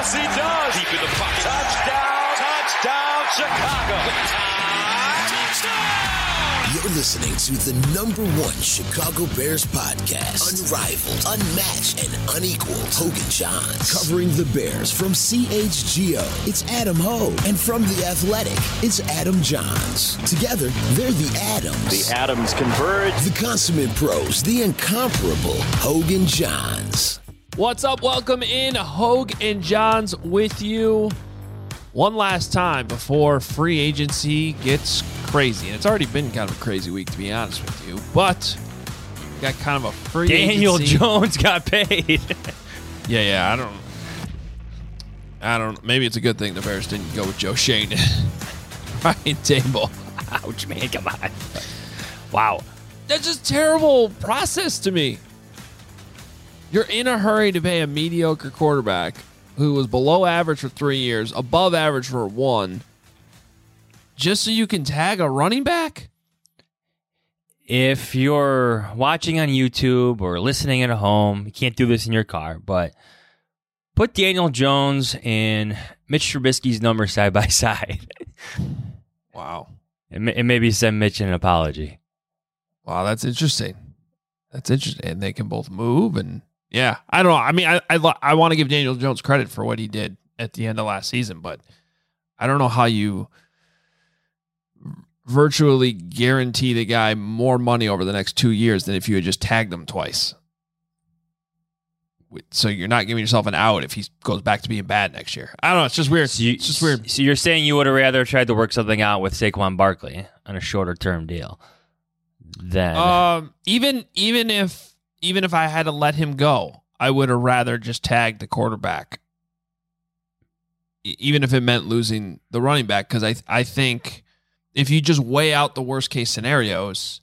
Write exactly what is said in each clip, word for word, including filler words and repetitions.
Yes, he does. Deep in the pocket. Touchdown. Touchdown, Chicago. Touchdown. You're listening to the number one Chicago Bears podcast. Unrivaled, unmatched, and unequaled. Hogan Johns. Covering the Bears from C H G O, it's Adam Hogue. And from The Athletic, it's Adam Johns. Together, they're the Adams. The Adams converge. The consummate pros, the incomparable Hogan Johns. What's up? Welcome in. Hogue and Johns with you one last time before free agency gets crazy. And it's already been kind of a crazy week, to be honest with you. But we got kind of a free Daniel agency. Jones got paid. yeah, yeah. I don't I don't maybe it's a good thing the Bears didn't go with Joe Shane. Ryan Table. Ouch, man. Come on. Wow. That's just a terrible process to me. You're in a hurry to pay a mediocre quarterback who was below average for three years, above average for one, just so you can tag a running back? If you're watching on YouTube or listening at home, you can't do this in your car, but put Daniel Jones and Mitch Trubisky's number side by side. Wow. And, and maybe send Mitch an apology. Wow, that's interesting. That's interesting. And they can both move and yeah, I don't know. I mean, I I, I want to give Daniel Jones credit for what he did at the end of last season, but I don't know how you virtually guarantee the guy more money over the next two years than if you had just tagged him twice. So you're not giving yourself an out if he goes back to being bad next year. I don't know. It's just weird. So you, it's just weird. So you're saying you would have rather tried to work something out with Saquon Barkley on a shorter term deal than um even even if. Even if I had to let him go, I would have rather just tagged the quarterback, e- even if it meant losing the running back. Because I I think if you just weigh out the worst case scenarios,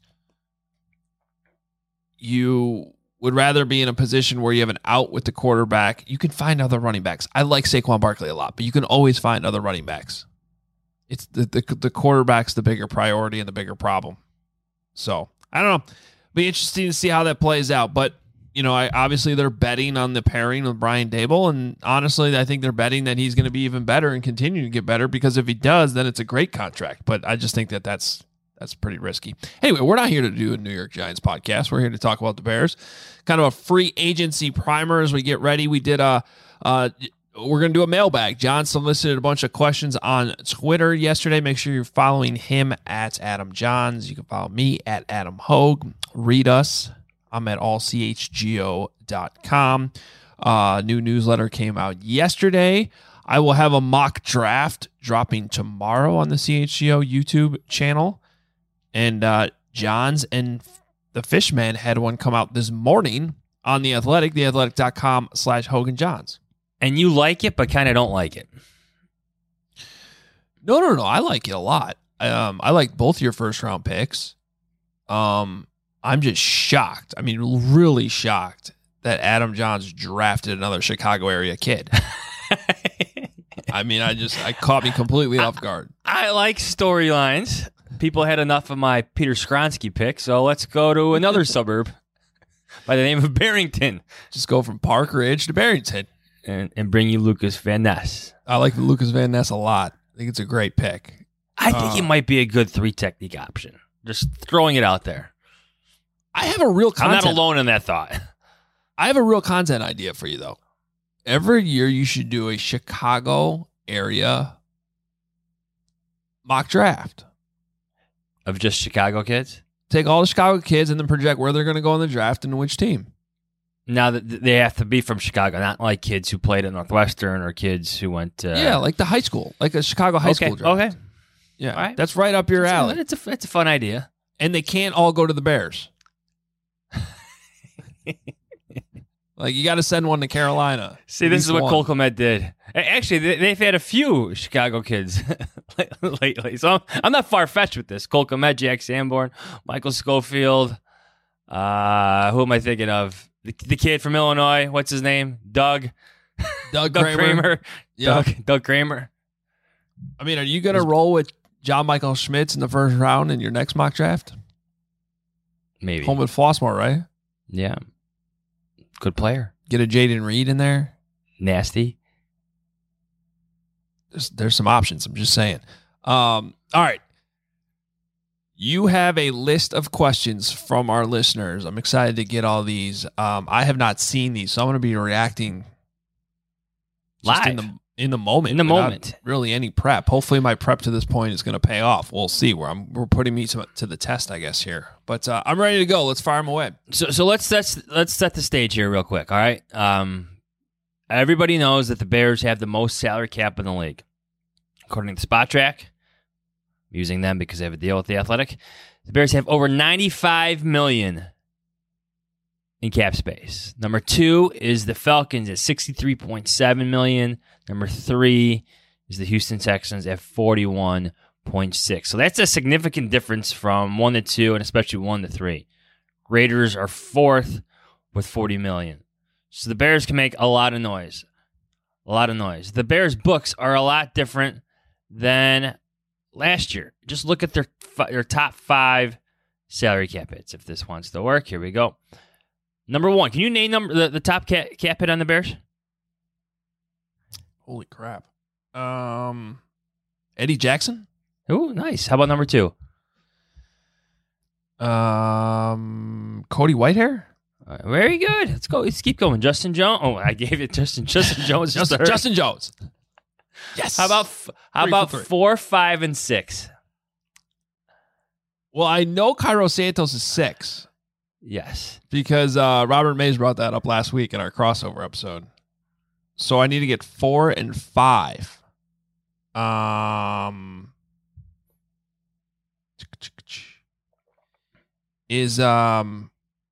you would rather be in a position where you have an out with the quarterback. You can find other running backs. I like Saquon Barkley a lot, but you can always find other running backs. It's the the, the quarterback's the bigger priority and the bigger problem. So I don't know. Be interesting to see how that plays out. But, you know, I obviously they're betting on the pairing with Brian Daboll. And honestly, I think they're betting that he's going to be even better and continue to get better, because if he does, then it's a great contract. But I just think that that's that's pretty risky. Anyway, we're not here to do a New York Giants podcast. We're here to talk about the Bears. Kind of a free agency primer as we get ready. We did a, uh, we're going to do a mailbag. John solicited a bunch of questions on Twitter yesterday. Make sure you're following him at Adam Johns. You can follow me at Adam Hogue. Read us. I'm at all c h g o dot com. Uh, new newsletter came out yesterday. I will have a mock draft dropping tomorrow on the C H G O YouTube channel. And uh, Johns and the Fishman had one come out this morning on The Athletic, theathletic.com slash Hogan Johns. and you like it, but kind of don't like it. No, no, no. I like it a lot. Um, I like both your first round picks. Um, I'm just shocked. I mean, really shocked that Adam Johns drafted another Chicago area kid. I mean, I just, I caught me completely off guard. I like storylines. People had enough of my Peter Skronsky pick, so let's go to another suburb by the name of Barrington. Just go from Park Ridge to Barrington. And, and bring you Lucas Van Ness. I like Lucas Van Ness a lot. I think it's a great pick. I think uh, it might be a good three technique option. Just throwing it out there. I have a real content. I'm not alone in that thought. I have a real content idea for you, though. Every year you should do a Chicago area mock draft. Of just Chicago kids? Take all the Chicago kids and then project where they're going to go in the draft and which team. Now that they have to be from Chicago, not like kids who played at Northwestern or kids who went to... Yeah, like the high school, like a Chicago high okay, school draft. Okay, Yeah, all right. That's right up your it's alley. A, it's, a, it's a fun idea. And they can't all go to the Bears. Like, you got to send one to Carolina. See, this At is what least Cole one. Kmet did. Actually, they- they've had a few Chicago kids lately, so I'm, I'm not far-fetched with this. Cole Kmet, Jack Sanborn, Michael Schofield. Uh, who am I thinking of? The, the kid from Illinois. What's his name? Doug. Doug, Doug Kramer. Kramer. Yeah. Doug, Doug Kramer. I mean, are you going to roll with John Michael Schmitz in the first round in your next mock draft? Maybe. Home with Flossmoor, right? Yeah. Good player. Get a Jaden Reed in there. Nasty. there's, there's some options. I'm just saying. Um, all right. You have a list of questions from our listeners. I'm excited to get all these. Um, I have not seen these, so I'm going to be reacting just live in the in the moment. In the without moment. really any prep. Hopefully, my prep to this point is going to pay off. We'll see. Where I'm, we're putting me to, to the test, I guess here. But uh, I'm ready to go. Let's fire them away. So so let's let's let's set the stage here real quick. All right. Um, everybody knows that the Bears have the most salary cap in the league, according to Spot Track. Using them because they have a deal with the Athletic. The Bears have over ninety-five million dollars in cap space. Number two is the Falcons at sixty-three point seven million dollars. Number three is the Houston Texans at forty-one point six. So that's a significant difference from one to two and especially one to three. Raiders are fourth with forty million dollars. So the Bears can make a lot of noise. A lot of noise. The Bears' books are a lot different than last year. Just look at their their top five salary cap hits. If this wants to work, here we go. Number one, can you name number the, the top cap, cap hit on the Bears? Holy crap. Um, Eddie Jackson? Oh, nice. How about number two? Um, Cody Whitehair? Uh, very good. Let's go. Let's keep going. Justin Jones. Oh, I gave it Justin. Justin Jones. Justin, Justin, Justin Jones. Yes. How about f- how Three about for three. four, five, and six? Well, I know Cairo Santos is six Yes. because uh, Robert Mays brought that up last week in our crossover episode. So I need to get four and five. Um, is um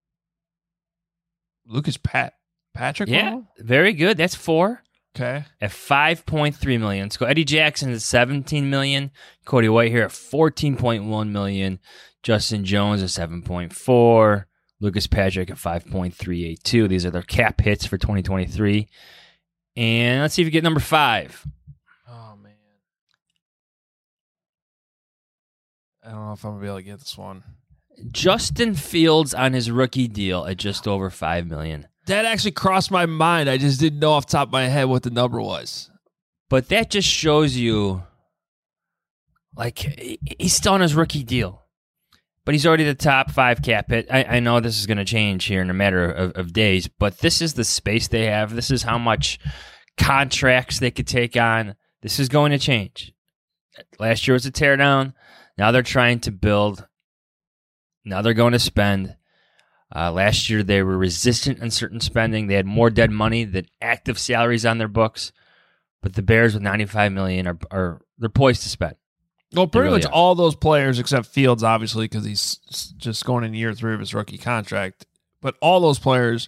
Lucas Pat Patrick? Yeah. Wrong? Very good. That's four. Okay. At five point three million dollars. Let's go. Eddie Jackson is seventeen million dollars. Cody White here at fourteen point one million dollars. Justin Jones at seven point four. Lucas Patrick at five point three eight two. These are their cap hits for twenty twenty-three. And let's see if you get number five. Oh man. I don't know if I'm gonna be able to get this one. Justin Fields on his rookie deal at just over five million dollars. That actually crossed my mind. I just didn't know off the top of my head what the number was. But that just shows you, like, he's still on his rookie deal. But he's already the top five cap hit. I, I know this is going to change here in a matter of, of days, but this is the space they have. This is how much contracts they could take on. This is going to change. Last year was a teardown. Now they're trying to build. Now they're going to spend. Uh, last year, they were resistant on certain spending. They had more dead money than active salaries on their books. But the Bears with ninety-five million dollars are, are they're poised to spend. Well, pretty really much are. all those players except Fields, obviously, because he's s- just going in year three of his rookie contract. But all those players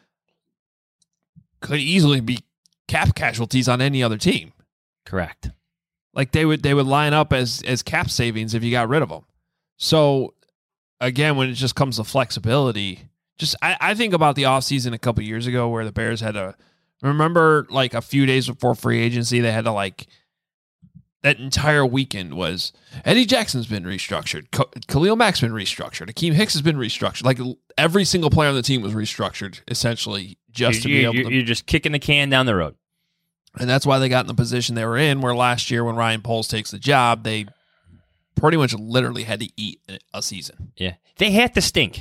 could easily be cap casualties on any other team. Correct. Like they would, they would line up as as cap savings if you got rid of them. So again, when it just comes to flexibility, just I, I think about the offseason a couple years ago where the Bears had to remember, like a few days before free agency, they had to like that entire weekend was Eddie Jackson's been restructured, K- Khalil Mack's been restructured, Akeem Hicks has been restructured. Like every single player on the team was restructured essentially just to you, be able you, to. You're just kicking the can down the road. And that's why they got in the position they were in, where last year when Ryan Poles takes the job, they pretty much literally had to eat a season. Yeah. They had to stink.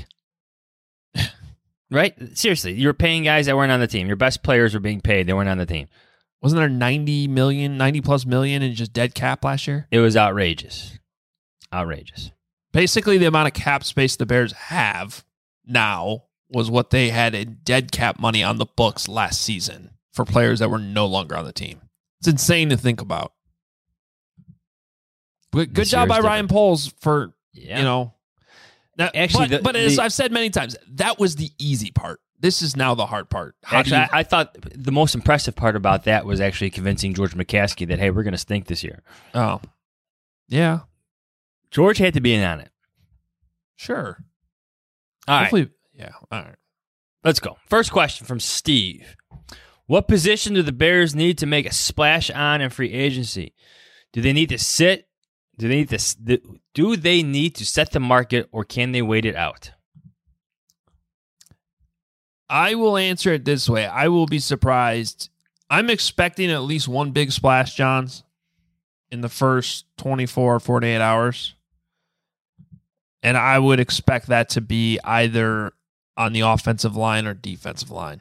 Right? Seriously, you were paying guys that weren't on the team. Your best players were being paid. They weren't on the team. Wasn't there ninety million, ninety plus million in just dead cap last year? It was outrageous. Outrageous. Basically, the amount of cap space the Bears have now was what they had in dead cap money on the books last season for players that were no longer on the team. It's insane to think about. But good This job year by is Ryan different. Poles for, Yeah. you know. Now, Actually, but, the- but as the- I've said many times, that was the easy part. This is now the hard part. How Actually, do you, I, I thought the most impressive part about that was actually convincing George McCaskey that, hey, we're going to stink this year. oh, yeah, George had to be in on it. sure. All right, Hopefully, yeah, all right. let's go. First question from Steve. What position do the Bears need to make a splash on in free agency? Do they need to sit? Do they need to s- do they need to set the market, or can they wait it out? I will answer it this way. I will be surprised. I'm expecting at least one big splash, Johns. in the first twenty-four, forty-eight hours. And I would expect that to be either on the offensive line or defensive line.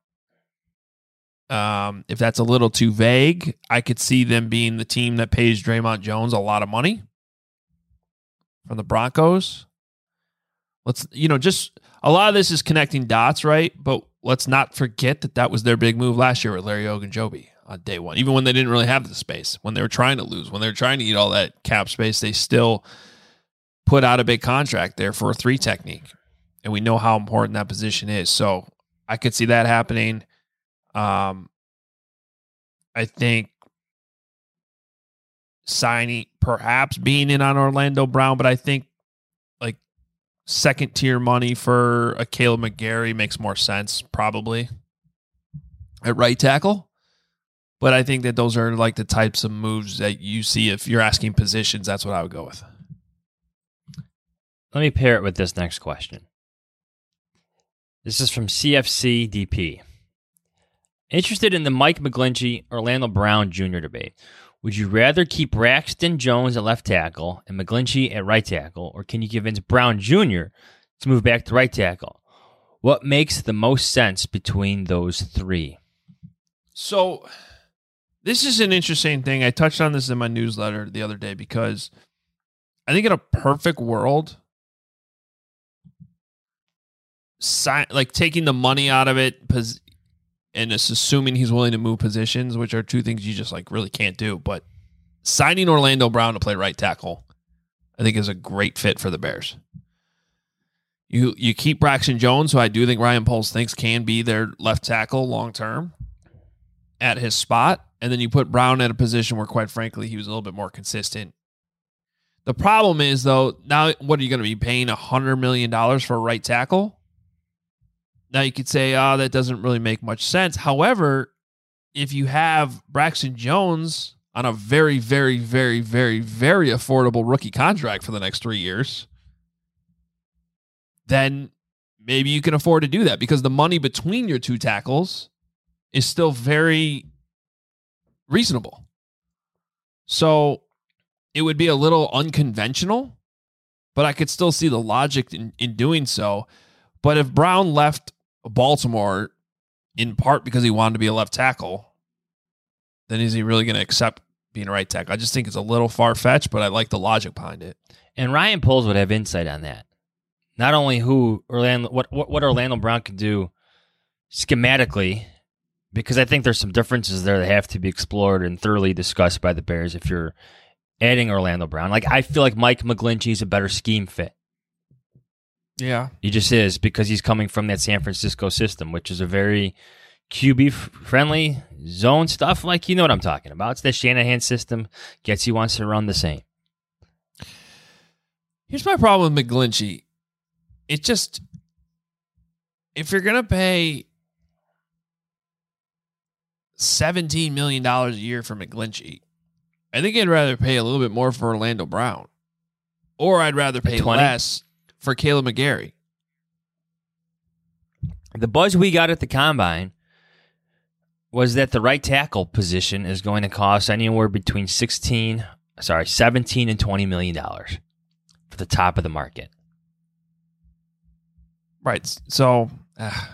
Um, if that's a little too vague, I could see them being the team that pays Draymond Jones a lot of money from the Broncos. Let's, you know, just a lot of this is connecting dots, right? But let's not forget that that was their big move last year with Larry Ogunjobi on day one. Even when they didn't really have the space, when they were trying to lose, when they were trying to eat all that cap space, they still put out a big contract there for a three technique. And we know how important that position is. So I could see that happening. Um, I think signing, perhaps being in on Orlando Brown, but I think like second tier money for a Caleb McGarry makes more sense probably at right tackle. But I think that those are like the types of moves that you see if you're asking positions. That's what I would go with. Let me pair it with this next question. This is from C F C D P. Interested in the Mike McGlinchey, Orlando Brown Junior debate. Would you rather keep Braxton Jones at left tackle and McGlinchey at right tackle, or can you convince Brown Junior to move back to right tackle? What makes the most sense between those three? So this is an interesting thing. I touched on this in my newsletter the other day because I think in a perfect world, si- like taking the money out of it, pos- and it's assuming he's willing to move positions, which are two things you just like really can't do. But signing Orlando Brown to play right tackle, I think is a great fit for the Bears. You you keep Braxton Jones, who I do think Ryan Poles thinks can be their left tackle long term at his spot, and then you put Brown at a position where, quite frankly, he was a little bit more consistent. The problem is, though, now what are you going to be paying one hundred million dollars for a right tackle? Now you could say, oh, that doesn't really make much sense. However, if you have Braxton Jones on a very, very, very, very, very affordable rookie contract for the next three years, then maybe you can afford to do that because the money between your two tackles is still very reasonable. So it would be a little unconventional, but I could still see the logic in, in doing so. But if Brown left Baltimore in part because he wanted to be a left tackle, then is he really going to accept being a right tackle? I just think it's a little far-fetched, but I like the logic behind it. And Ryan Poles would have insight on that. Not only who Orlando, what, what, what Orlando Brown can do schematically, because I think there's some differences there that have to be explored and thoroughly discussed by the Bears if you're adding Orlando Brown. Like, I feel like Mike McGlinchey is a better scheme fit. Yeah. He just is, because he's coming from that San Francisco system, which is a very Q B-friendly zone stuff. Like, you know what I'm talking about. It's the Shanahan system. Getsy wants to run the same. Here's my problem with McGlinchey. It just, if you're going to pay seventeen million dollars a year for McGlinchey, I think I'd rather pay a little bit more for Orlando Brown. Or I'd rather pay less for Caleb McGarry. The buzz we got at the Combine was that the right tackle position is going to cost anywhere between sixteen, sorry, seventeen and twenty million dollars for the top of the market. Right. So uh,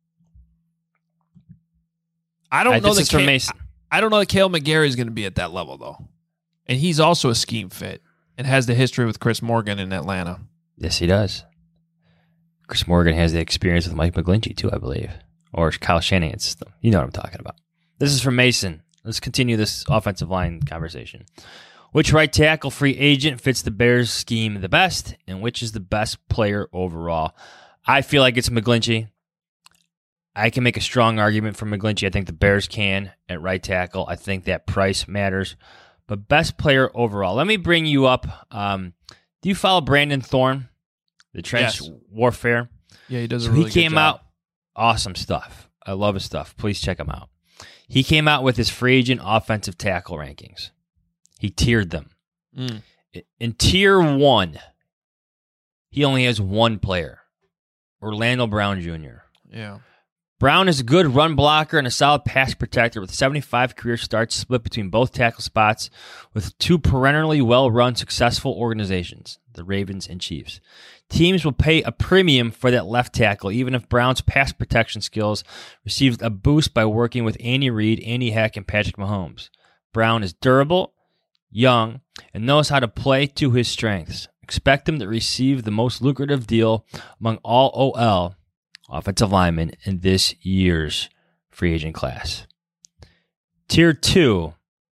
I don't I, know this that is from Cal- Mason. I don't know that Caleb McGarry is going to be at that level though, and he's also a scheme fit and has the history with Chris Morgan in Atlanta. Yes, he does. Chris Morgan has the experience with Mike McGlinchey too, I believe, or Kyle Shanahan's system. You know what I'm talking about. This is from Mason. Let's continue this offensive line conversation. Which right tackle free agent fits the Bears scheme the best, and which is the best player overall? I feel like it's McGlinchey. I can make a strong argument for McGlinchey. I think the Bears can at right tackle. I think that price matters. But best player overall. Let me bring you up. Um, do you follow Brandon Thorne, the trench Yes. warfare? Yeah, he does a So really he came good job. out, awesome stuff. I love his stuff. Please check him out. He came out with his free agent offensive tackle rankings. He tiered them. Mm. In tier one, he only has one player, Orlando Brown Junior Yeah. Brown is a good run blocker and a solid pass protector with seventy-five career starts split between both tackle spots with two perennially well-run successful organizations, the Ravens and Chiefs. Teams will pay a premium for that left tackle, even if Brown's pass protection skills received a boost by working with Andy Reid, Andy Heck, and Patrick Mahomes. Brown is durable, young, and knows how to play to his strengths. Expect him to receive the most lucrative deal among all O L offensive linemen in this year's free agent class. Tier two,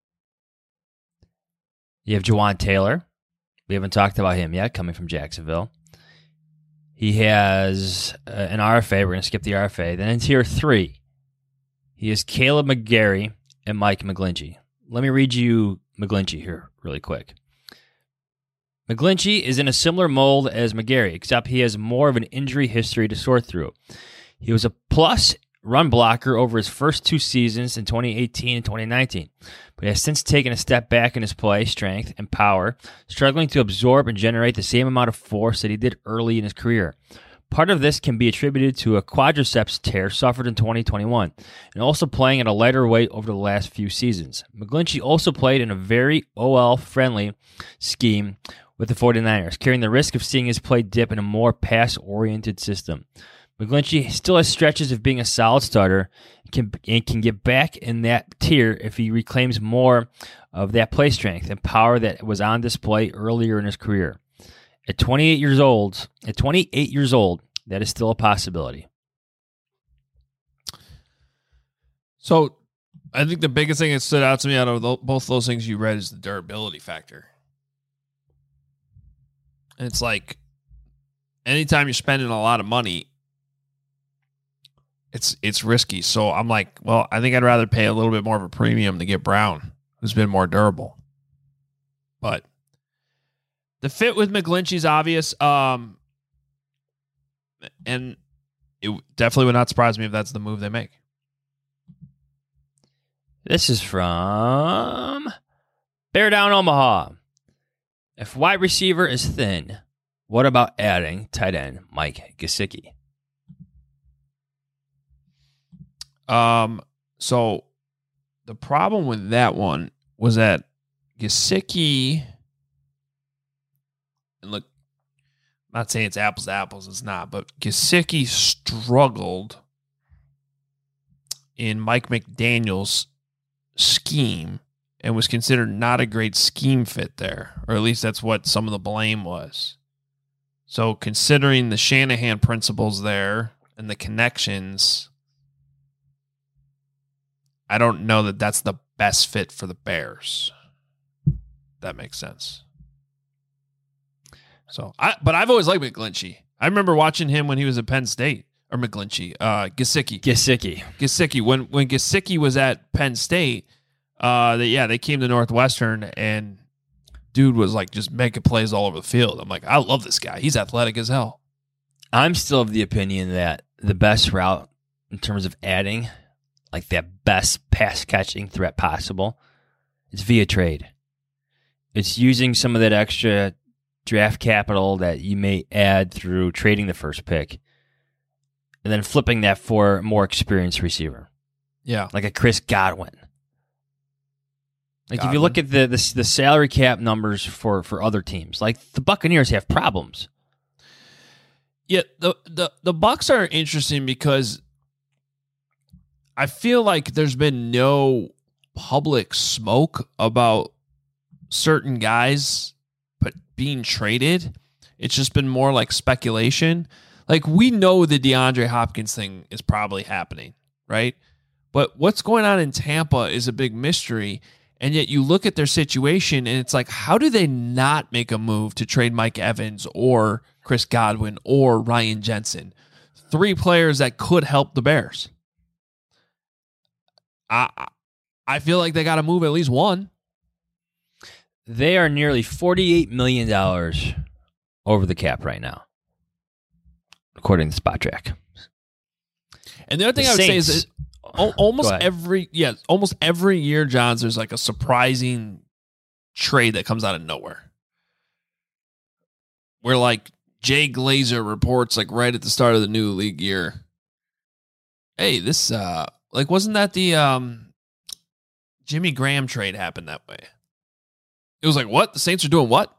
you have Jawaan Taylor. We haven't talked about him yet, coming from Jacksonville. He has uh, an R F A. We're going to skip the R F A. Then in tier three, he has Caleb McGarry and Mike McGlinchey. Let me read you McGlinchey here really quick. McGlinchey is in a similar mold as McGarry, except he has more of an injury history to sort through. He was a plus run blocker over his first two seasons in twenty eighteen and twenty nineteen, but has since taken a step back in his play, strength, and power, struggling to absorb and generate the same amount of force that he did early in his career. Part of this can be attributed to a quadriceps tear suffered in twenty twenty-one, and also playing at a lighter weight over the last few seasons. McGlinchey also played in a very O L-friendly scheme with the 49ers, carrying the risk of seeing his play dip in a more pass-oriented system. McGlinchey still has stretches of being a solid starter and can, and can get back in that tier if he reclaims more of that play strength and power that was on display earlier in his career. At twenty-eight years old, at twenty-eight years old, that is still a possibility. So, I think the biggest thing that stood out to me out of the, both those things you read is the durability factor. And it's like, anytime you're spending a lot of money, it's it's risky. So I'm like, well, I think I'd rather pay a little bit more of a premium to get Brown, who's been more durable. But the fit with McGlinchey's obvious. Um, and it definitely would not surprise me if that's the move they make. This is from Bear Down Omaha. If wide receiver is thin, what about adding tight end Mike Gesicki? Um, so the problem with that one was that Gesicki, and look, I'm not saying it's apples to apples, it's not, but Gesicki struggled in Mike McDaniel's scheme and was considered not a great scheme fit there, or at least that's what some of the blame was. So considering the Shanahan principles there and the connections, I don't know that that's the best fit for the Bears. That makes sense. So, I but I've always liked McGlinchey. I remember watching him when he was at Penn State, or McGlinchey, uh, Gesicki. Gesicki. Gesicki. When when Gesicki was at Penn State, uh, they, yeah, they came to Northwestern, and dude was like just making plays all over the field. I'm like, I love this guy. He's athletic as hell. I'm still of the opinion that the best route in terms of adding, like that best pass catching threat possible, is via trade. It's using some of that extra draft capital that you may add through trading the first pick and then flipping that for a more experienced receiver. Yeah. Like a Chris Godwin. Like Godwin. If you look at the, the the salary cap numbers for, for other teams, like the Buccaneers have problems. Yeah, the, the, the Bucs are interesting because I feel like there's been no public smoke about certain guys but being traded. It's just been more like speculation. Like, we know the DeAndre Hopkins thing is probably happening, right? But what's going on in Tampa is a big mystery. And yet you look at their situation and it's like, how do they not make a move to trade Mike Evans or Chris Godwin or Ryan Jensen? Three players that could help the Bears. I I feel like they got to move at least one. They are nearly forty-eight million dollars over the cap right now, according to Spot Track. And the other thing The I would Saints, say is that almost Go ahead. every yeah, almost every year, Johns, there's like a surprising trade that comes out of nowhere. Where like Jay Glazer reports like right at the start of the new league year, hey, this uh, like wasn't that the um, Jimmy Graham trade happened that way? It was like, what? The Saints are doing what?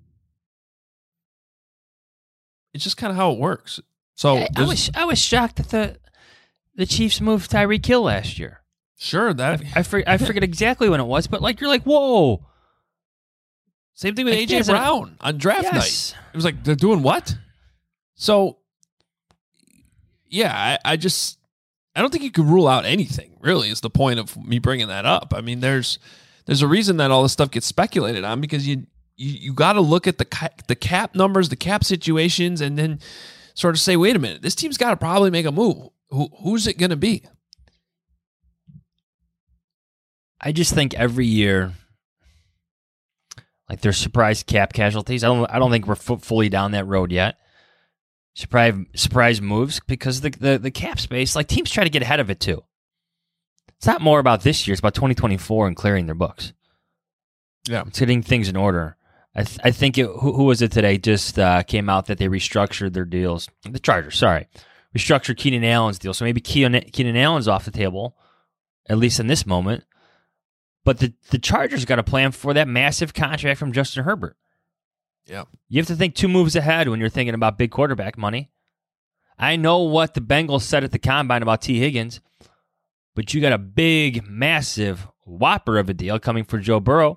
It's just kind of how it works. So I, I was I was shocked that the the Chiefs moved Tyreek Hill last year. Sure, that I, I, for, I forget exactly when it was, but like you're like, whoa. Same thing with Like, A J yes, Brown on draft yes. night. It was like, they're doing what? So, yeah, I, I just, I don't think you could rule out anything, really, is the point of me bringing that up. I mean, there's there's a reason that all this stuff gets speculated on, because you you, you got to look at the ca- the cap numbers, the cap situations, and then sort of say, wait a minute, this team's got to probably make a move. Who Who's it going to be? I just think every year, like there's surprise cap casualties. I don't. I don't think we're f- fully down that road yet. Surprise, surprise moves because the, the the cap space. Like teams try to get ahead of it too. It's not more about this year. It's about twenty twenty-four and clearing their books. Yeah, it's getting things in order. I th- I think it. Who, who was it today? Just uh, came out that they restructured their deals. The Chargers, sorry, restructured Keenan Allen's deal. So maybe Keenan, Keenan Allen's off the table, at least in this moment. But the, the Chargers got a plan for that massive contract from Justin Herbert. Yeah. You have to think two moves ahead when you're thinking about big quarterback money. I know what the Bengals said at the Combine about T. Higgins, but you got a big, massive whopper of a deal coming for Joe Burrow.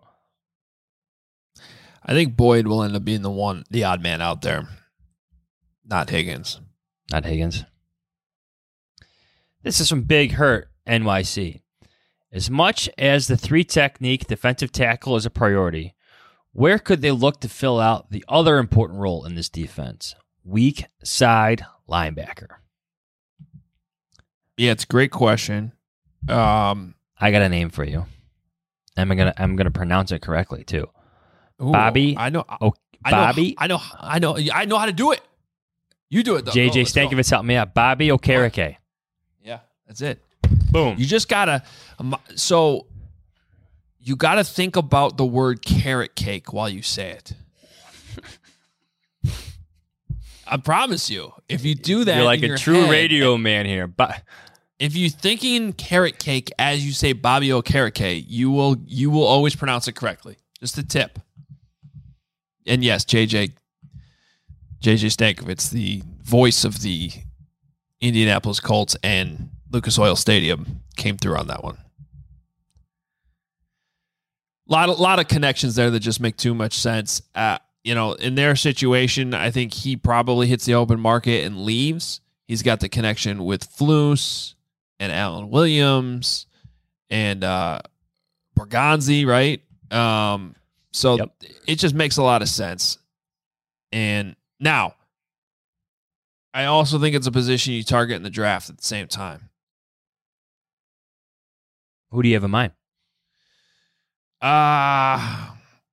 I think Boyd will end up being the one, the odd man out there, not Higgins. Not Higgins. This is from Big Hurt N Y C. As much as the three-technique defensive tackle is a priority, where could they look to fill out the other important role in this defense? Weak side linebacker. Yeah, it's a great question. Um, I got a name for you. I'm gonna I'm gonna pronounce it correctly too. ooh, Bobby. I know. Oh, I know, Bobby. I know. I know. I know how to do it. You do it though. J J Oh, let's go. Stankovitz helped me out. Bobby Okereke. Yeah, that's it. Boom. You just gotta. Um, so you gotta think about the word carrot cake while you say it. I promise you, if you do that, You're like in a your true head, radio man here. But if you're thinking carrot cake as you say Bobby Okereke, you will you will always pronounce it correctly. Just a tip. And yes, J J J J Stankovitz, the voice of the Indianapolis Colts and Lucas Oil Stadium, came through on that one. A lot, a lot of connections there that just make too much sense. Uh, you know, in their situation, I think he probably hits the open market and leaves. He's got the connection with Flus and Alan Williams and uh, Borgonzi, right? Um, so Yep. it just makes a lot of sense. And now, I also think it's a position you target in the draft at the same time. who do you have in mind? Uh,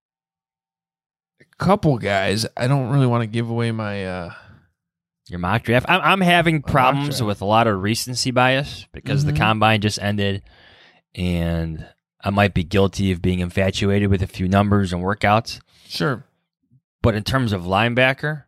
a couple guys. I don't really want to give away my... Uh, Your mock draft. I'm, I'm having mock problems draft. with a lot of recency bias because Mhm. the combine just ended, and I might be guilty of being infatuated with a few numbers and workouts. sure. But in terms of linebacker,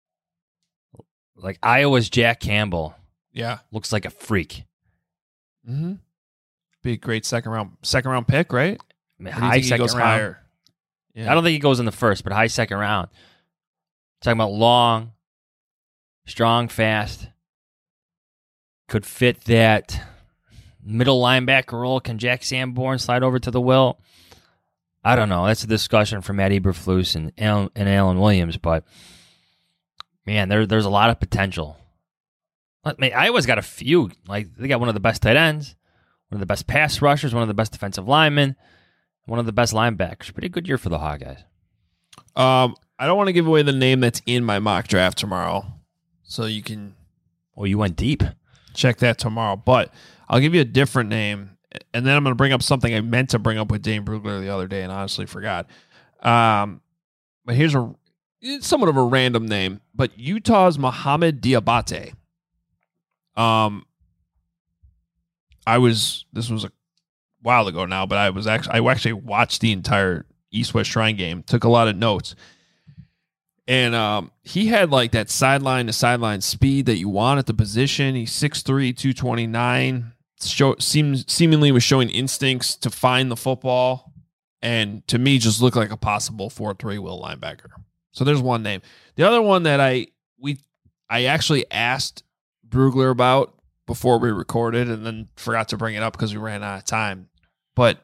like Iowa's Jack Campbell Yeah. looks like a freak. Mm-hmm. Be a great second round second round pick, right? I mean, Or do you high think he second goes round. higher? Yeah. I don't think he goes in the first, but high second round. Talking about long, strong, fast. Could fit that middle linebacker role. Can Jack Sanborn slide over to the will? I don't know. That's a discussion for Matt Eberflus and Alan, and Alan Williams, but man, there, there's a lot of potential. I mean, Iowa's got a few. Like they got one of the best tight ends, one of the best pass rushers, one of the best defensive linemen, one of the best linebackers. Pretty good year for the Hawkeyes. Um, I don't want to give away the name that's in my mock draft tomorrow, so you can Oh, you went deep. check that tomorrow. But I'll give you a different name, and then I'm going to bring up something I meant to bring up with Dane Brugler the other day and honestly forgot. Um, but here's a it's somewhat of a random name, but Utah's Mohamed Diabate. Um, I was this was a while ago now, but I was actually I actually watched the entire East West Shrine game, took a lot of notes. And um, he had like that sideline to sideline speed that you want at the position. He's six three, two twenty-nine. Show, seems, seemingly was showing instincts to find the football. And to me, just looked like a possible four three will linebacker. So there's one name. The other one that I we I actually asked Brugler about before we recorded and then forgot to bring it up because we ran out of time. But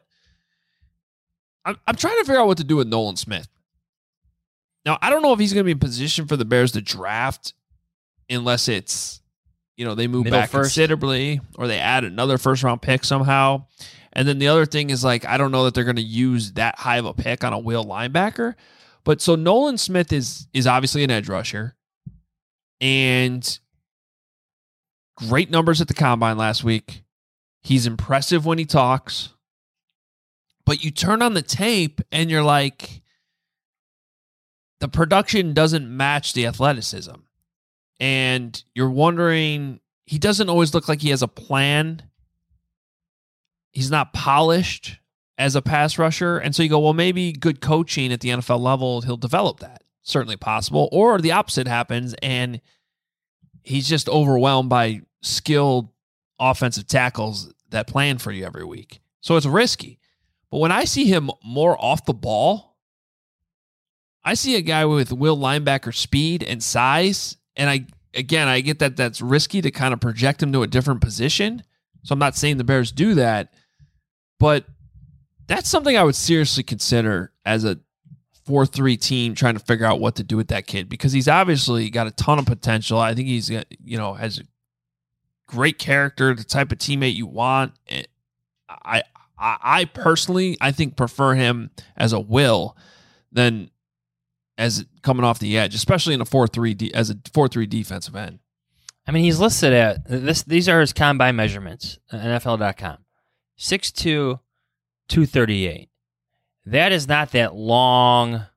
I'm, I'm trying to figure out what to do with Nolan Smith. Now, I don't know if he's going to be in position for the Bears to draft unless it's, you know, they move Middle back first. considerably or they add another first round pick somehow. And then the other thing is like, I don't know that they're going to use that high of a pick on a will linebacker. But so Nolan Smith is is obviously an edge rusher and great numbers at the combine last week. He's impressive when he talks. But you turn on the tape and you're like, the production doesn't match the athleticism. And you're wondering, he doesn't always look like he has a plan. He's not polished as a pass rusher. And so you go, well, maybe good coaching at the N F L level, he'll develop that. Certainly possible. Or the opposite happens and he's just overwhelmed by skilled offensive tackles that plan for you every week. So it's risky. But when I see him more off the ball, I see a guy with will linebacker speed and size. And I, again, I get that that's risky to kind of project him to a different position. So I'm not saying the Bears do that, but that's something I would seriously consider as a four three team trying to figure out what to do with that kid because he's obviously got a ton of potential. I think he's, you know, has a great character, the type of teammate you want. I, I, I personally, I think prefer him as a will than as coming off the edge, especially in a four three de- as a four three defensive end. I mean, he's listed at this. These are his combine measurements. N F L dot com. six two, two thirty-eight. That is not that long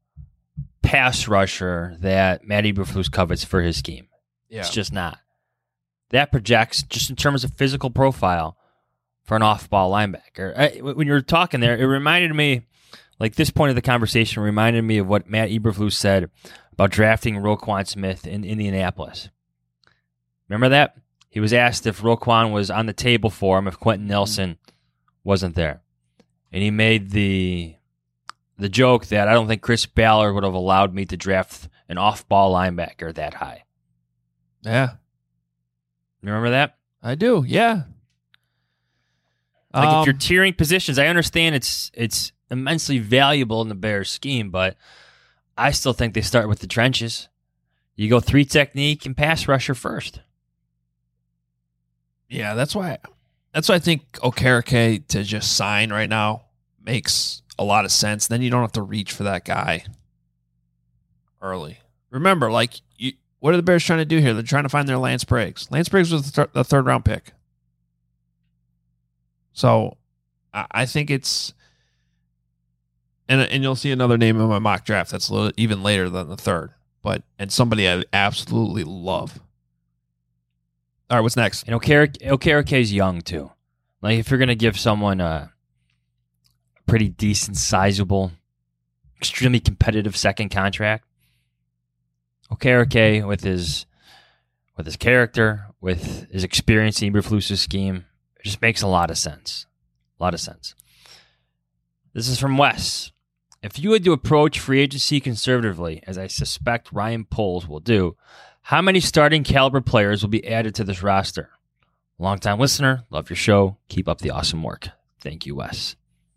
pass rusher that Matt Eberflus covets for his scheme. Yeah. It's just not. That projects just in terms of physical profile for an off-ball linebacker. I, when you were talking there, it reminded me, like this point of the conversation reminded me of what Matt Eberflus said about drafting Roquan Smith in Indianapolis. Remember that? He was asked if Roquan was on the table for him if Quentin Nelson wasn't there. And he made the the joke that I don't think Chris Ballard would have allowed me to draft an off-ball linebacker that high. Yeah. You remember that? I do, yeah. Like Um, if you're tiering positions, I understand it's it's immensely valuable in the Bears scheme, but I still think they start with the trenches. You go three technique and pass rusher first. Yeah, that's why that's why I think Okereke to just sign right now makes a lot of sense. Then you don't have to reach for that guy early. Remember, like, you, what are the Bears trying to do here? They're trying to find their Lance Briggs. Lance Briggs was the, th- the third round pick. So I, I think it's, and and you'll see another name in my mock draft that's a little, even later than the third, but and somebody I absolutely love. All right, what's next? And Okereke is young, too. Like, if you're going to give someone a pretty decent, sizable, extremely competitive second contract, Okereke, with his with his character, with his experience in Eberflus's scheme, it just makes a lot of sense. A lot of sense. This is from Wes. If you had to approach free agency conservatively, as I suspect Ryan Poles will do, how many starting caliber players will be added to this roster? Longtime listener, love your show. Keep up the awesome work. Thank you, Wes.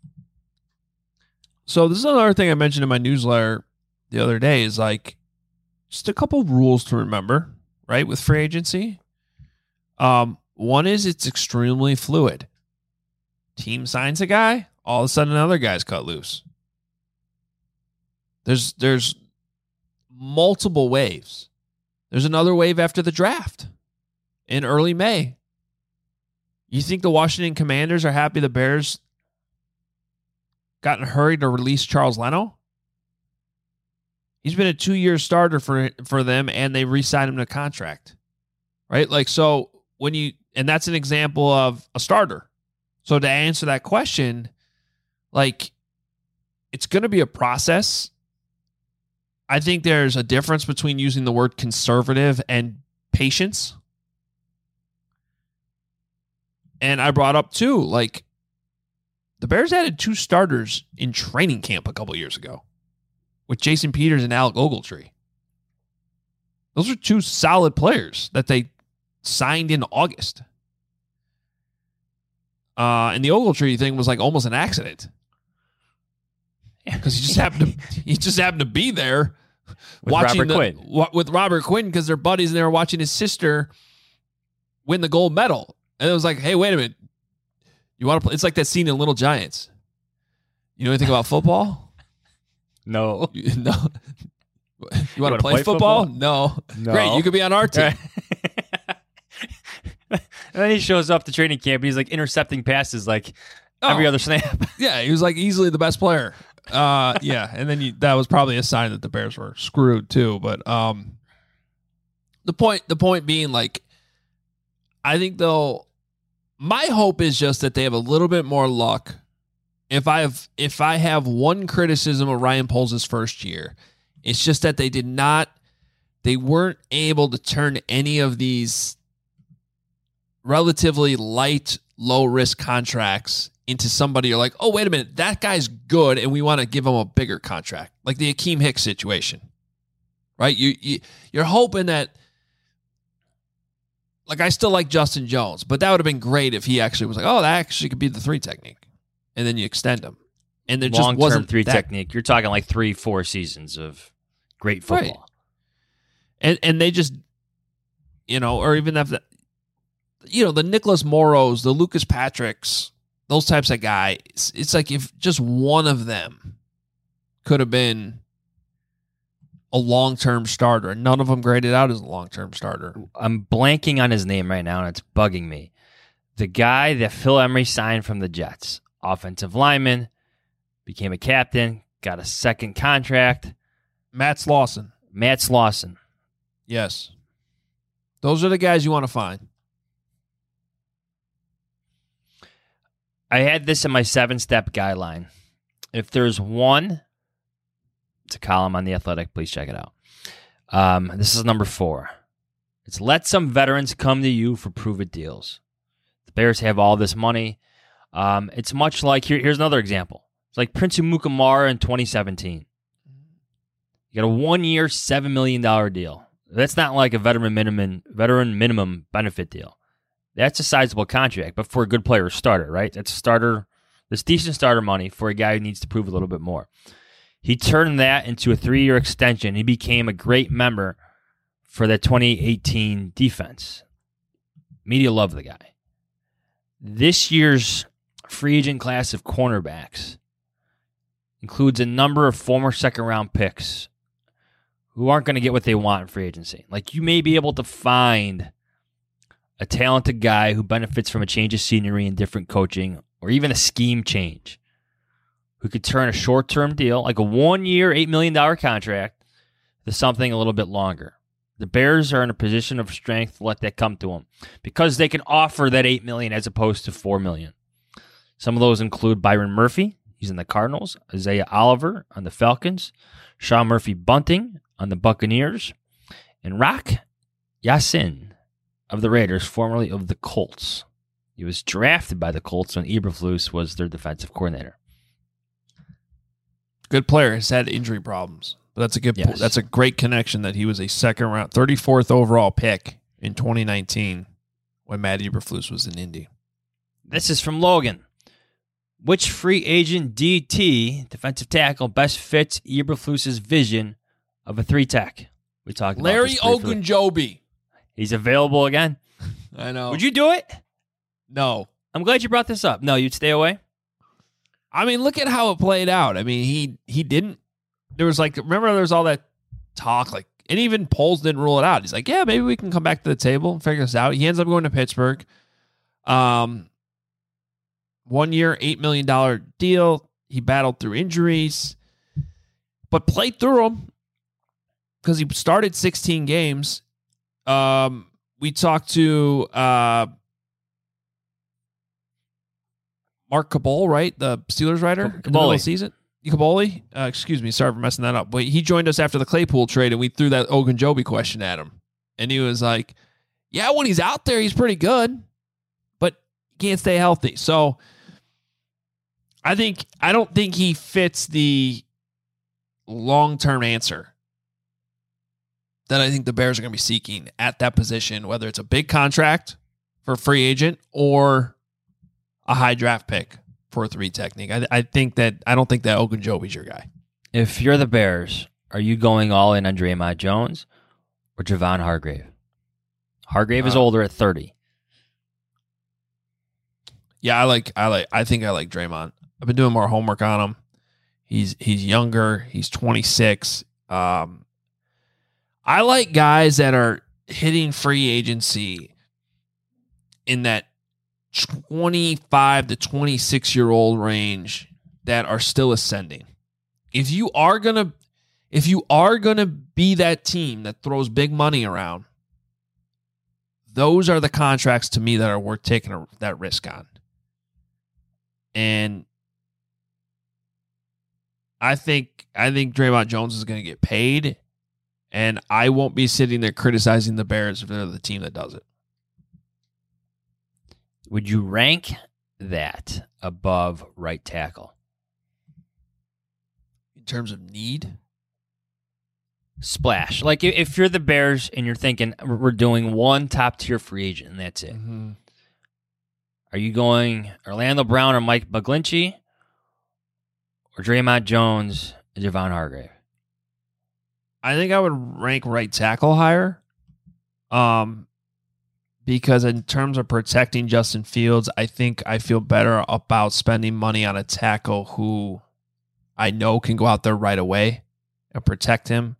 So this is another thing I mentioned in my newsletter the other day is like just a couple of rules to remember, right, with free agency. Um, one is it's extremely fluid. Team signs a guy, all of a sudden another guy's cut loose. There's there's multiple waves. There's another wave after the draft in early May. You think the Washington Commanders are happy the Bears got in a hurry to release Charles Leno? He's been a two-year starter for for them, and they re-signed him to contract. Right? Like, so when you, and that's an example of a starter. So to answer that question, like, it's going to be a process. I think there's a difference between using the word conservative and patience. And I brought up too, like the Bears added two starters in training camp a couple years ago with Jason Peters and Alec Ogletree. Those are two solid players that they signed in August. Uh, and the Ogletree thing was like almost an accident because he just happened to he just happened to be there with watching Robert the, Quinn. wa- with Robert Quinn because they're buddies and they were watching his sister win the gold medal. And it was like, hey, wait a minute. You want to play? It's like that scene in Little Giants. You know anything about football? No. You, no. You want wanna to play, play football? football? No. No. Great. You could be on our team. And then he shows up to training camp and he's like intercepting passes like Oh. every other snap. Yeah, he was like easily the best player. Uh, yeah, and then you, that was probably a sign that the Bears were screwed too. But um, the point, the point being, like, I think though, my hope is just that they have a little bit more luck. If I have, if I have one criticism of Ryan Poles' first year, it's just that they did not, they weren't able to turn any of these relatively light, low risk contracts into somebody you're like, oh, wait a minute, that guy's good, and we want to give him a bigger contract, like the Akeem Hicks situation, right? You, you you're hoping that, like, I still like Justin Jones, but that would have been great if he actually was like, oh, that actually could be the three technique, and then you extend him, and there just Long-term wasn't three that, technique. You're talking like three, four seasons of great football. Right. and and they just, you know, or even if the, you know, the Nicholas Morrows, the Lucas Patricks, those types of guys, it's, it's like if just one of them could have been a long-term starter, and none of them graded out as a long-term starter. I'm blanking on his name right now, and it's bugging me. The guy that Phil Emery signed from the Jets, offensive lineman, became a captain, got a second contract. Matt Slauson. Matt Slauson. Yes. Those are the guys you want to find. I had this in my seven-step guideline. If there's one, it's a column on The Athletic. Please check it out. Um, this is number four. It's let some veterans come to you for prove-it deals. The Bears have all this money. Um, it's much like, here, here's another example. It's like Prince Umukamara in twenty seventeen. You got a one-year, seven million dollars deal. That's not like a veteran minimum, veteran minimum benefit deal. That's a sizable contract, but for a good player, a starter, right? That's a starter. That's decent starter money for a guy who needs to prove a little bit more. He turned that into a three-year extension. He became a great member for the twenty eighteen defense. Media loved the guy. This year's free agent class of cornerbacks includes a number of former second-round picks who aren't going to get what they want in free agency. Like, you may be able to find a talented guy who benefits from a change of scenery and different coaching, or even a scheme change, who could turn a short-term deal, like a one-year, eight million dollars contract, to something a little bit longer. The Bears are in a position of strength to let that come to them because they can offer that eight million dollars as opposed to four million dollars. Some of those include Byron Murphy, he's in the Cardinals, Isaiah Oliver on the Falcons, Sean Murphy-Bunting on the Buccaneers, and Rock Ya-Sin of the Raiders, formerly of the Colts. He was drafted by the Colts when Eberflus was their defensive coordinator. Good player. Has had injury problems, but that's a good. Yes. That's a great connection that he was a second round, thirty-fourth overall pick in twenty nineteen when Matt Eberflus was in Indy. This is from Logan. Which free agent D T, defensive tackle, best fits Eberflus's vision of a three-tech? We talked about Larry this briefly. Ogunjobi. He's available again. I know. Would you do it? No. I'm glad you brought this up. No, you'd stay away? I mean, look at how it played out. I mean, he he didn't. There was like, remember, there was all that talk, like, and even Poles didn't rule it out. He's like, yeah, maybe we can come back to the table and figure this out. He ends up going to Pittsburgh. Um, one year, eight million dollars deal. He battled through injuries, but played through them because he started sixteen games. Um, we talked to uh, Mark Cabal, right? The Steelers writer in the middle of the season. Kaboli, uh, excuse me, sorry for messing that up. But he joined us after the Claypool trade, and we threw that Ogunjobi question at him. And he was like, yeah, when he's out there, he's pretty good, but he can't stay healthy. So I think I don't think he fits the long-term answer that I think the Bears are going to be seeking at that position, whether it's a big contract for a free agent or a high draft pick for a three technique. I, I think that I don't think that Ogunjobi's your guy. If you're the Bears, are you going all in on Draymond Jones or Javon Hargrave? Hargrave is uh, older at thirty. Yeah, I like I like I think I like Draymond. I've been doing more homework on him. He's he's younger. He's twenty-six. Um, I like guys that are hitting free agency in that twenty-five to twenty-six year old range that are still ascending. If you are gonna, if you are gonna be that team that throws big money around, those are the contracts to me that are worth taking a, that risk on. And I think I think Draymond Jones is going to get paid, and I won't be sitting there criticizing the Bears if they're the team that does it. Would you rank that above right tackle? In terms of need? Splash. Like if you're the Bears and you're thinking we're doing one top-tier free agent and that's it. Mm-hmm. Are you going Orlando Brown or Mike McGlinchey or Draymond Jones and Javon Hargrave? I think I would rank right tackle higher. Um, because in terms of protecting Justin Fields, I think I feel better about spending money on a tackle who I know can go out there right away and protect him.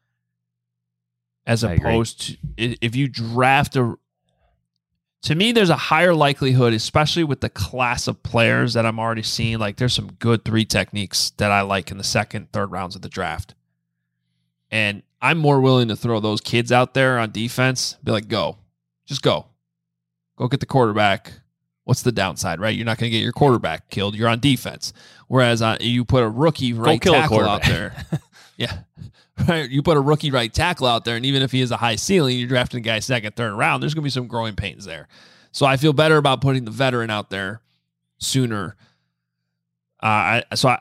As opposed to if you draft a, to me, there's a higher likelihood, especially with the class of players that I'm already seeing. Like there's some good three techniques that I like in the second, third rounds of the draft. And I'm more willing to throw those kids out there on defense. Be like, go, just go, go get the quarterback. What's the downside, right? You're not going to get your quarterback killed. You're on defense. Whereas uh, you put a rookie right tackle out there. Yeah. Right, you put a rookie right tackle out there, and even if he has a high ceiling, you're drafting a guy second, third round, there's going to be some growing pains there. So I feel better about putting the veteran out there sooner. Uh, I, so I,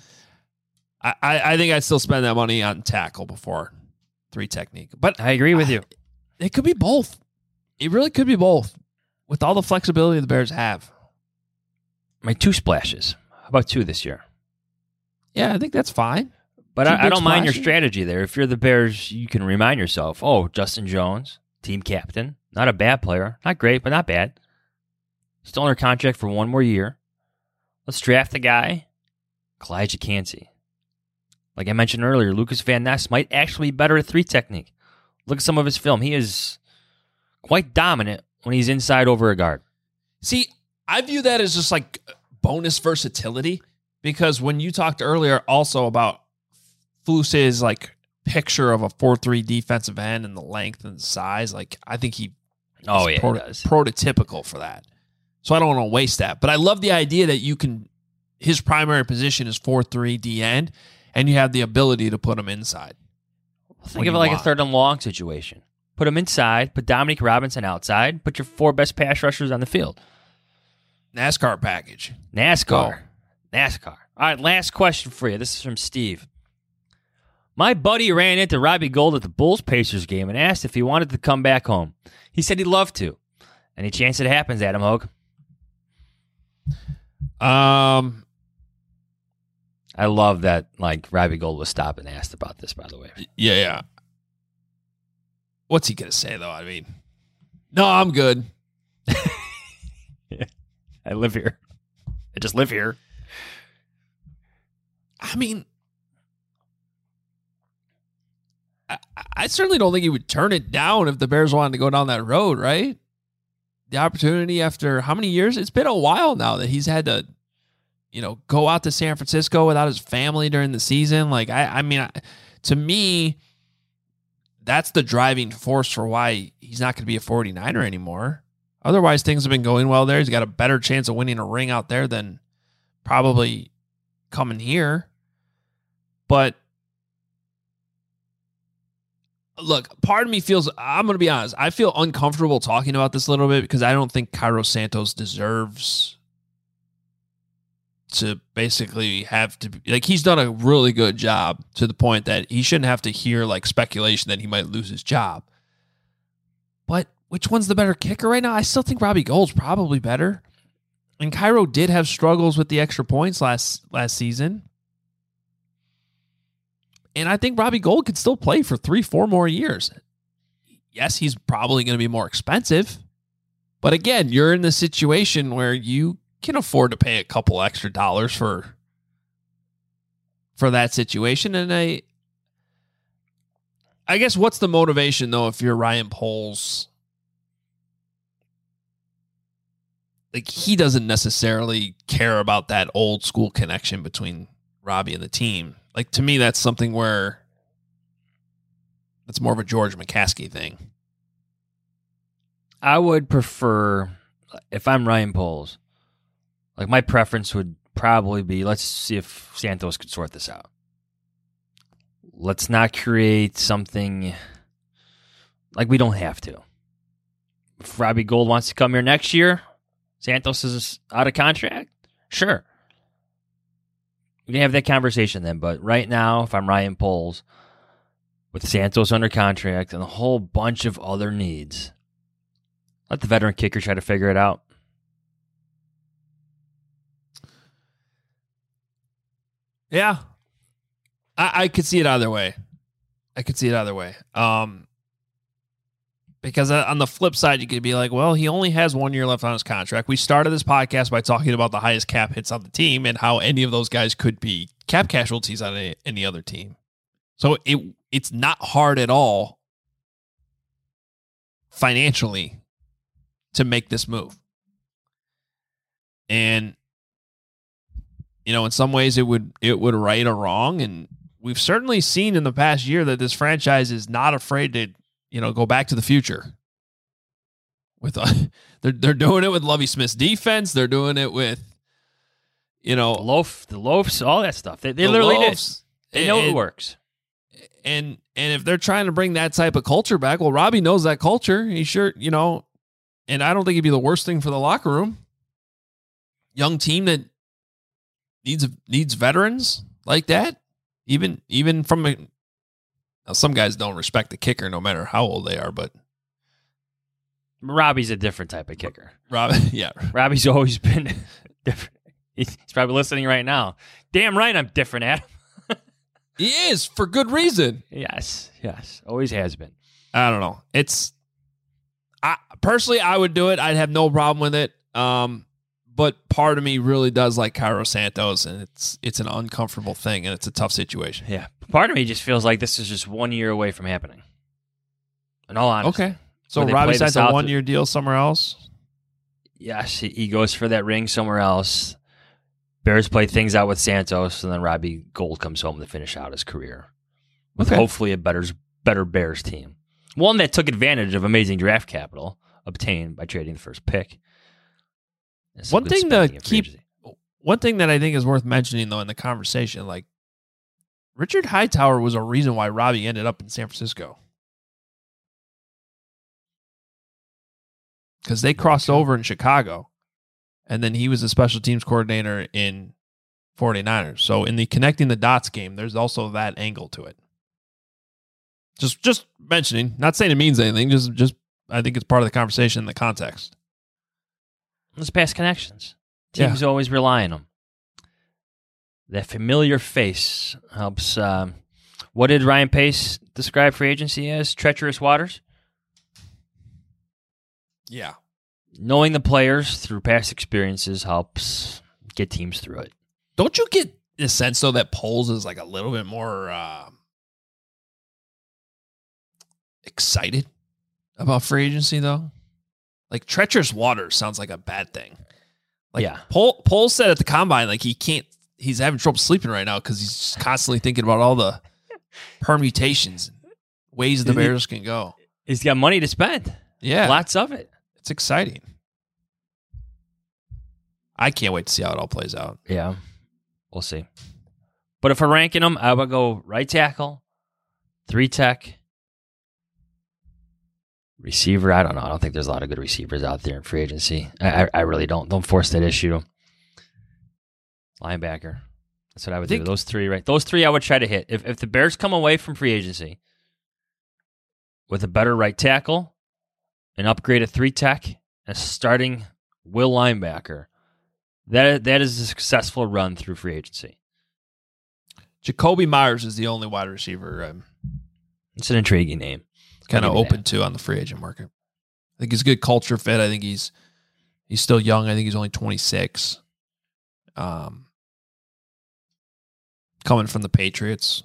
I, I think I'd still spend that money on tackle before three technique. But I agree with I, you. It could be both. It really could be both with all the flexibility the Bears have. My two splashes. How about two this year? Yeah, I think that's fine. But I, I don't mind your strategy there. If you're the Bears, you can remind yourself, oh, Justin Jones, team captain, not a bad player. Not great, but not bad. Still under contract for one more year. Let's draft the guy, Kalijah Kancey. Like I mentioned earlier, Lucas Van Ness might actually be better at three technique. Look at some of his film. He is quite dominant when he's inside over a guard. See, I view that as just like bonus versatility because when you talked earlier also about Flus's like picture of a four three defensive end and the length and the size, like I think he oh yeah proto- prototypical for that. So I don't want to waste that. But I love the idea that you can his primary position is four three D end and you have the ability to put him inside. Think of it like want. a third and long situation. Put him inside, put Dominique Robinson outside, put your four best pass rushers on the field. NASCAR package. NASCAR. Go. NASCAR. All right, last question for you. This is from Steve. My buddy ran into Robbie Gould at the Bulls-Pacers game and asked if he wanted to come back home. He said he'd love to. Any chance it happens, Adam Hogue? Um, I love that, like, Robbie Gould was stopped and asked about this, by the way. Yeah, yeah. What's he going to say, though? I mean, no, I'm good. Yeah. I live here. I just live here. I mean... I, I certainly don't think he would turn it down if the Bears wanted to go down that road, right? The opportunity after how many years? It's been a while now that he's had to, you know, go out to San Francisco without his family during the season. Like, I, I mean, I, to me, that's the driving force for why he's not going to be a forty-niner anymore. Otherwise, things have been going well there. He's got a better chance of winning a ring out there than probably coming here. But look, part of me feels, I'm going to be honest, I feel uncomfortable talking about this a little bit because I don't think Cairo Santos deserves to basically have to, like, he's done a really good job to the point that he shouldn't have to hear, like, speculation that he might lose his job. But which one's the better kicker right now? I still think Robbie Gould's probably better. And Cairo did have struggles with the extra points last last season. And I think Robbie Gould could still play for three, four more years. Yes, he's probably going to be more expensive. But again, you're in the situation where you can afford to pay a couple extra dollars for, for that situation. And I, I guess what's the motivation, though, if you're Ryan Poles? Like, he doesn't necessarily care about that old school connection between Robbie and the team. Like, to me, that's something where it's more of a George McCaskey thing. I would prefer, if I'm Ryan Poles, like, my preference would probably be, let's see if Santos could sort this out. Let's not create something like we don't have to. If Robbie Gould wants to come here next year, Santos is out of contract, sure. We can have that conversation then, but right now, if I'm Ryan Poles, with Santos under contract and a whole bunch of other needs, let the veteran kicker try to figure it out. Yeah. I, I could see it either way. I could see it either way. Um, because on the flip side, you could be like, well, he only has one year left on his contract. We started this podcast by talking about the highest cap hits on the team and how any of those guys could be cap casualties on a, any other team. So it it's not hard at all financially to make this move. And, you know, in some ways it would it would right a wrong. And we've certainly seen in the past year that this franchise is not afraid to, you know, go back to the future. With uh, they're they're doing it with Lovie Smith's defense. They're doing it with, you know, The loaf, the loafs, all that stuff. They, they the literally loaves. did. They know And- it works. And and if they're trying to bring that type of culture back, well, Robbie knows that culture. He sure, you know, and I don't think it'd be the worst thing for the locker room. Young team that needs needs veterans like that. Even even from a, now some guys don't respect the kicker no matter how old they are, but Robbie's a different type of kicker. Rob, yeah, Robbie's always been different. He's probably listening right now. Damn right I'm different, Adam. he is for good reason. Yes, yes. Always has been. I don't know. It's I personally I would do it. I'd have no problem with it. Um, but part of me really does like Cairo Santos, and it's it's an uncomfortable thing, and it's a tough situation. Yeah. Part of me just feels like this is just one year away from happening. In all honesty. Okay. So Where they Robbie play the signs a South- one year deal somewhere else. Yes, he- he goes for that ring somewhere else. Bears play things out with Santos, and then Robbie Gould comes home to finish out his career with Okay. hopefully a better better Bears team. One that took advantage of amazing draft capital obtained by trading the first pick. And some One good thing to spending in free keep- agency. One thing that I think is worth mentioning though in the conversation, like Richard Hightower was a reason why Robbie ended up in San Francisco. Because they crossed over in Chicago, and then he was the special teams coordinator in 49ers. So in the connecting the dots game, there's also that angle to it. Just just mentioning, not saying it means anything, just just I think it's part of the conversation in the context. Let's pass connections. Yeah. Teams always rely on them. That familiar face helps. Um, what did Ryan Pace describe free agency as? Treacherous waters? Yeah. Knowing the players through past experiences helps get teams through it. Don't you get the sense, though, that Poles is like a little bit more uh, excited about free agency, though? Like, treacherous waters sounds like a bad thing. Like, Yeah. Pole, Poles said at the combine, like, he can't, he's having trouble sleeping right now because he's just constantly thinking about all the permutations and ways the Bears can go. He's got money to spend. Yeah. Lots of it. It's exciting. I can't wait to see how it all plays out. Yeah. We'll see. But if we're ranking them, I would go right tackle, three tech, receiver. I don't know. I don't think there's a lot of good receivers out there in free agency. I, I, I really don't. Don't force that issue. Linebacker. That's what I would I do. Those three, right? Those three I would try to hit. If if the Bears come away from free agency with a better right tackle, an upgraded three tech, and starting will linebacker, that that is a successful run through free agency. Jacoby Myers is the only wide receiver I'm It's an intriguing name. kind of open to on the free agent market. I think he's a good culture fit. I think he's he's still young. I think he's only twenty-six. Um, coming from the Patriots,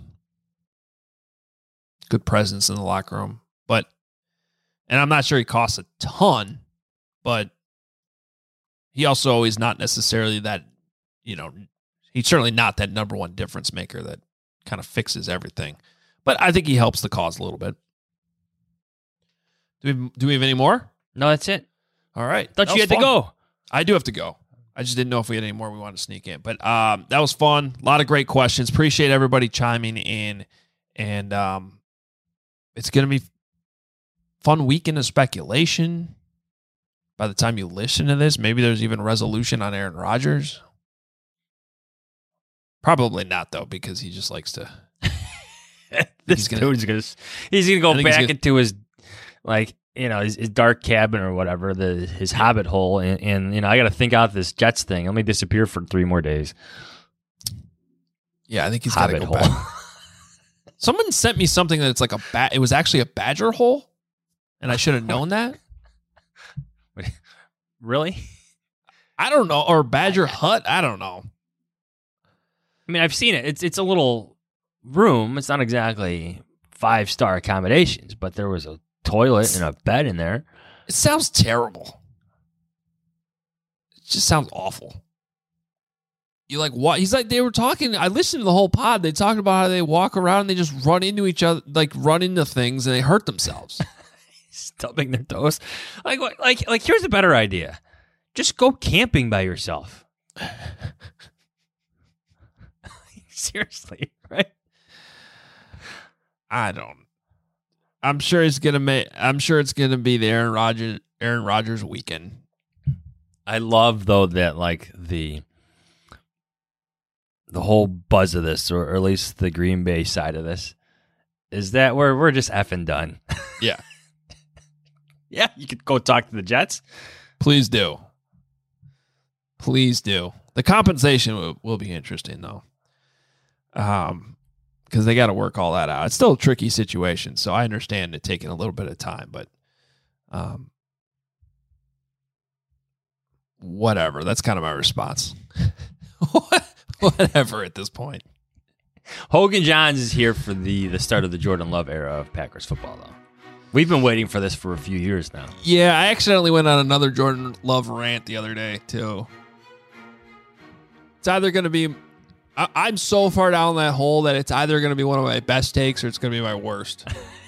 good presence in the locker room. But, and I'm not sure he costs a ton, but he also is not necessarily that, you know, he's certainly not that number one difference maker that kind of fixes everything. But I think he helps the cause a little bit. Do we, do we have any more? No, that's it. All right. Thought That you was had to fun. go. I do have to go. I just didn't know if we had any more we wanted to sneak in. But um, that was fun. A lot of great questions. Appreciate everybody chiming in. And um, it's going to be fun weekend of speculation. By the time you listen to this, maybe there's even resolution on Aaron Rodgers. Probably not, though, because he just likes to. this gonna, dude's going to he's gonna go back gonna, into his, like, you know, his, his dark cabin or whatever, the his hobbit hole. And, and you know, I got to think out this Jets thing. Let me disappear for three more days. Yeah, I think he's got to go hole. back. Someone sent me something that it's like a bat. It was actually a badger hole, and I should have known that. Really? I don't know. Or badger hut. I don't know. I mean, I've seen it. It's it's a little room. It's not exactly five star accommodations, but there was a toilet and a bed in there. It sounds terrible. It just sounds awful. You like what? He's like, they were talking. I listened to the whole pod. They talked about how they walk around and they just run into each other, like run into things and they hurt themselves. Stubbing their toes. Like, like, like, here's a better idea. Just go camping by yourself. Seriously, right? I don't. I'm sure it's gonna make. I'm sure it's gonna be the Aaron Rodgers, Aaron Rodgers weekend. I love though that like the the whole buzz of this, or, or at least the Green Bay side of this, is that we're we're just effing done. Yeah, yeah. You could go talk to the Jets. Please do. Please do. The compensation will, will be interesting though, um, because they got to work all that out. It's still a tricky situation, so I understand it taking a little bit of time, but um, whatever. That's kind of my response. Whatever at this point. Hogan Johns is here for the, the start of the Jordan Love era of Packers football, though. We've been waiting for this for a few years now. Yeah, I accidentally went on another Jordan Love rant the other day, too. It's either going to be... I, I'm so far down that hole that it's either going to be one of my best takes or it's going to be my worst.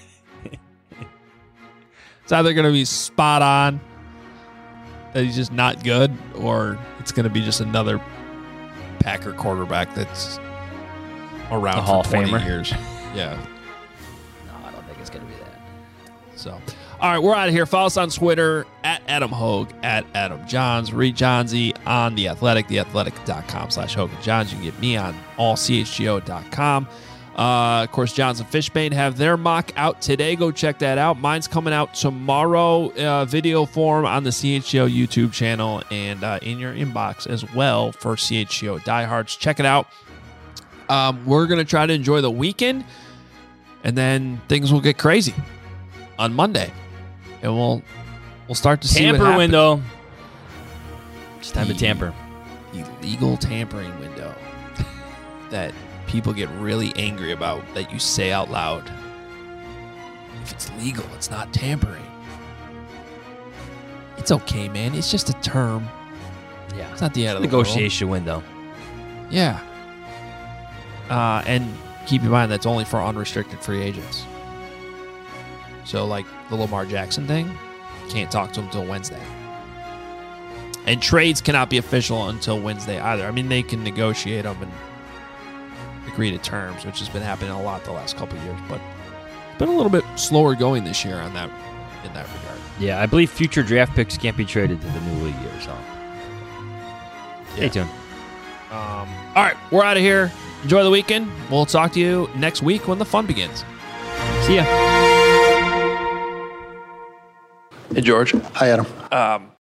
It's either going to be spot on, that he's just not good, or it's going to be just another Packer quarterback that's around a for Hall of twenty Famer. years. Yeah. No, I don't think it's going to be that. So, all right, we're out of here. Follow us on Twitter at Adam Hogue, at Adam Johns. Read Johnsy on The Athletic, theathletic.com slash Hogan Johns. You can get me on all c h g o dot com. Uh, of course, Johns and Fishbane have their mock out today. Go check that out. Mine's coming out tomorrow, uh, video form on the C H G O YouTube channel and uh, in your inbox as well for C H G O diehards. Check it out. Um, we're going to try to enjoy the weekend, and then things will get crazy on Monday, and we'll we'll start to see what Tamper happens. window. It's time to tamper. Illegal tampering window that people get really angry about, that you say out loud. If it's legal, it's not tampering. It's okay, man. It's just a term. Yeah. It's not the end of the world. Negotiation window. Yeah. Uh, and keep in mind that's only for unrestricted free agents. So, like the Lamar Jackson thing, can't talk to him until Wednesday. And trades cannot be official until Wednesday either. I mean, they can negotiate them and agreed to terms, which has been happening a lot the last couple of years. But it's been a little bit slower going this year on that in that regard. Yeah, I believe future draft picks can't be traded to the new league year, so stay Yeah. tuned. Um, all right, we're out of here. Enjoy the weekend. We'll talk to you next week when the fun begins. See ya. Hey, George. Hi, Adam. Um,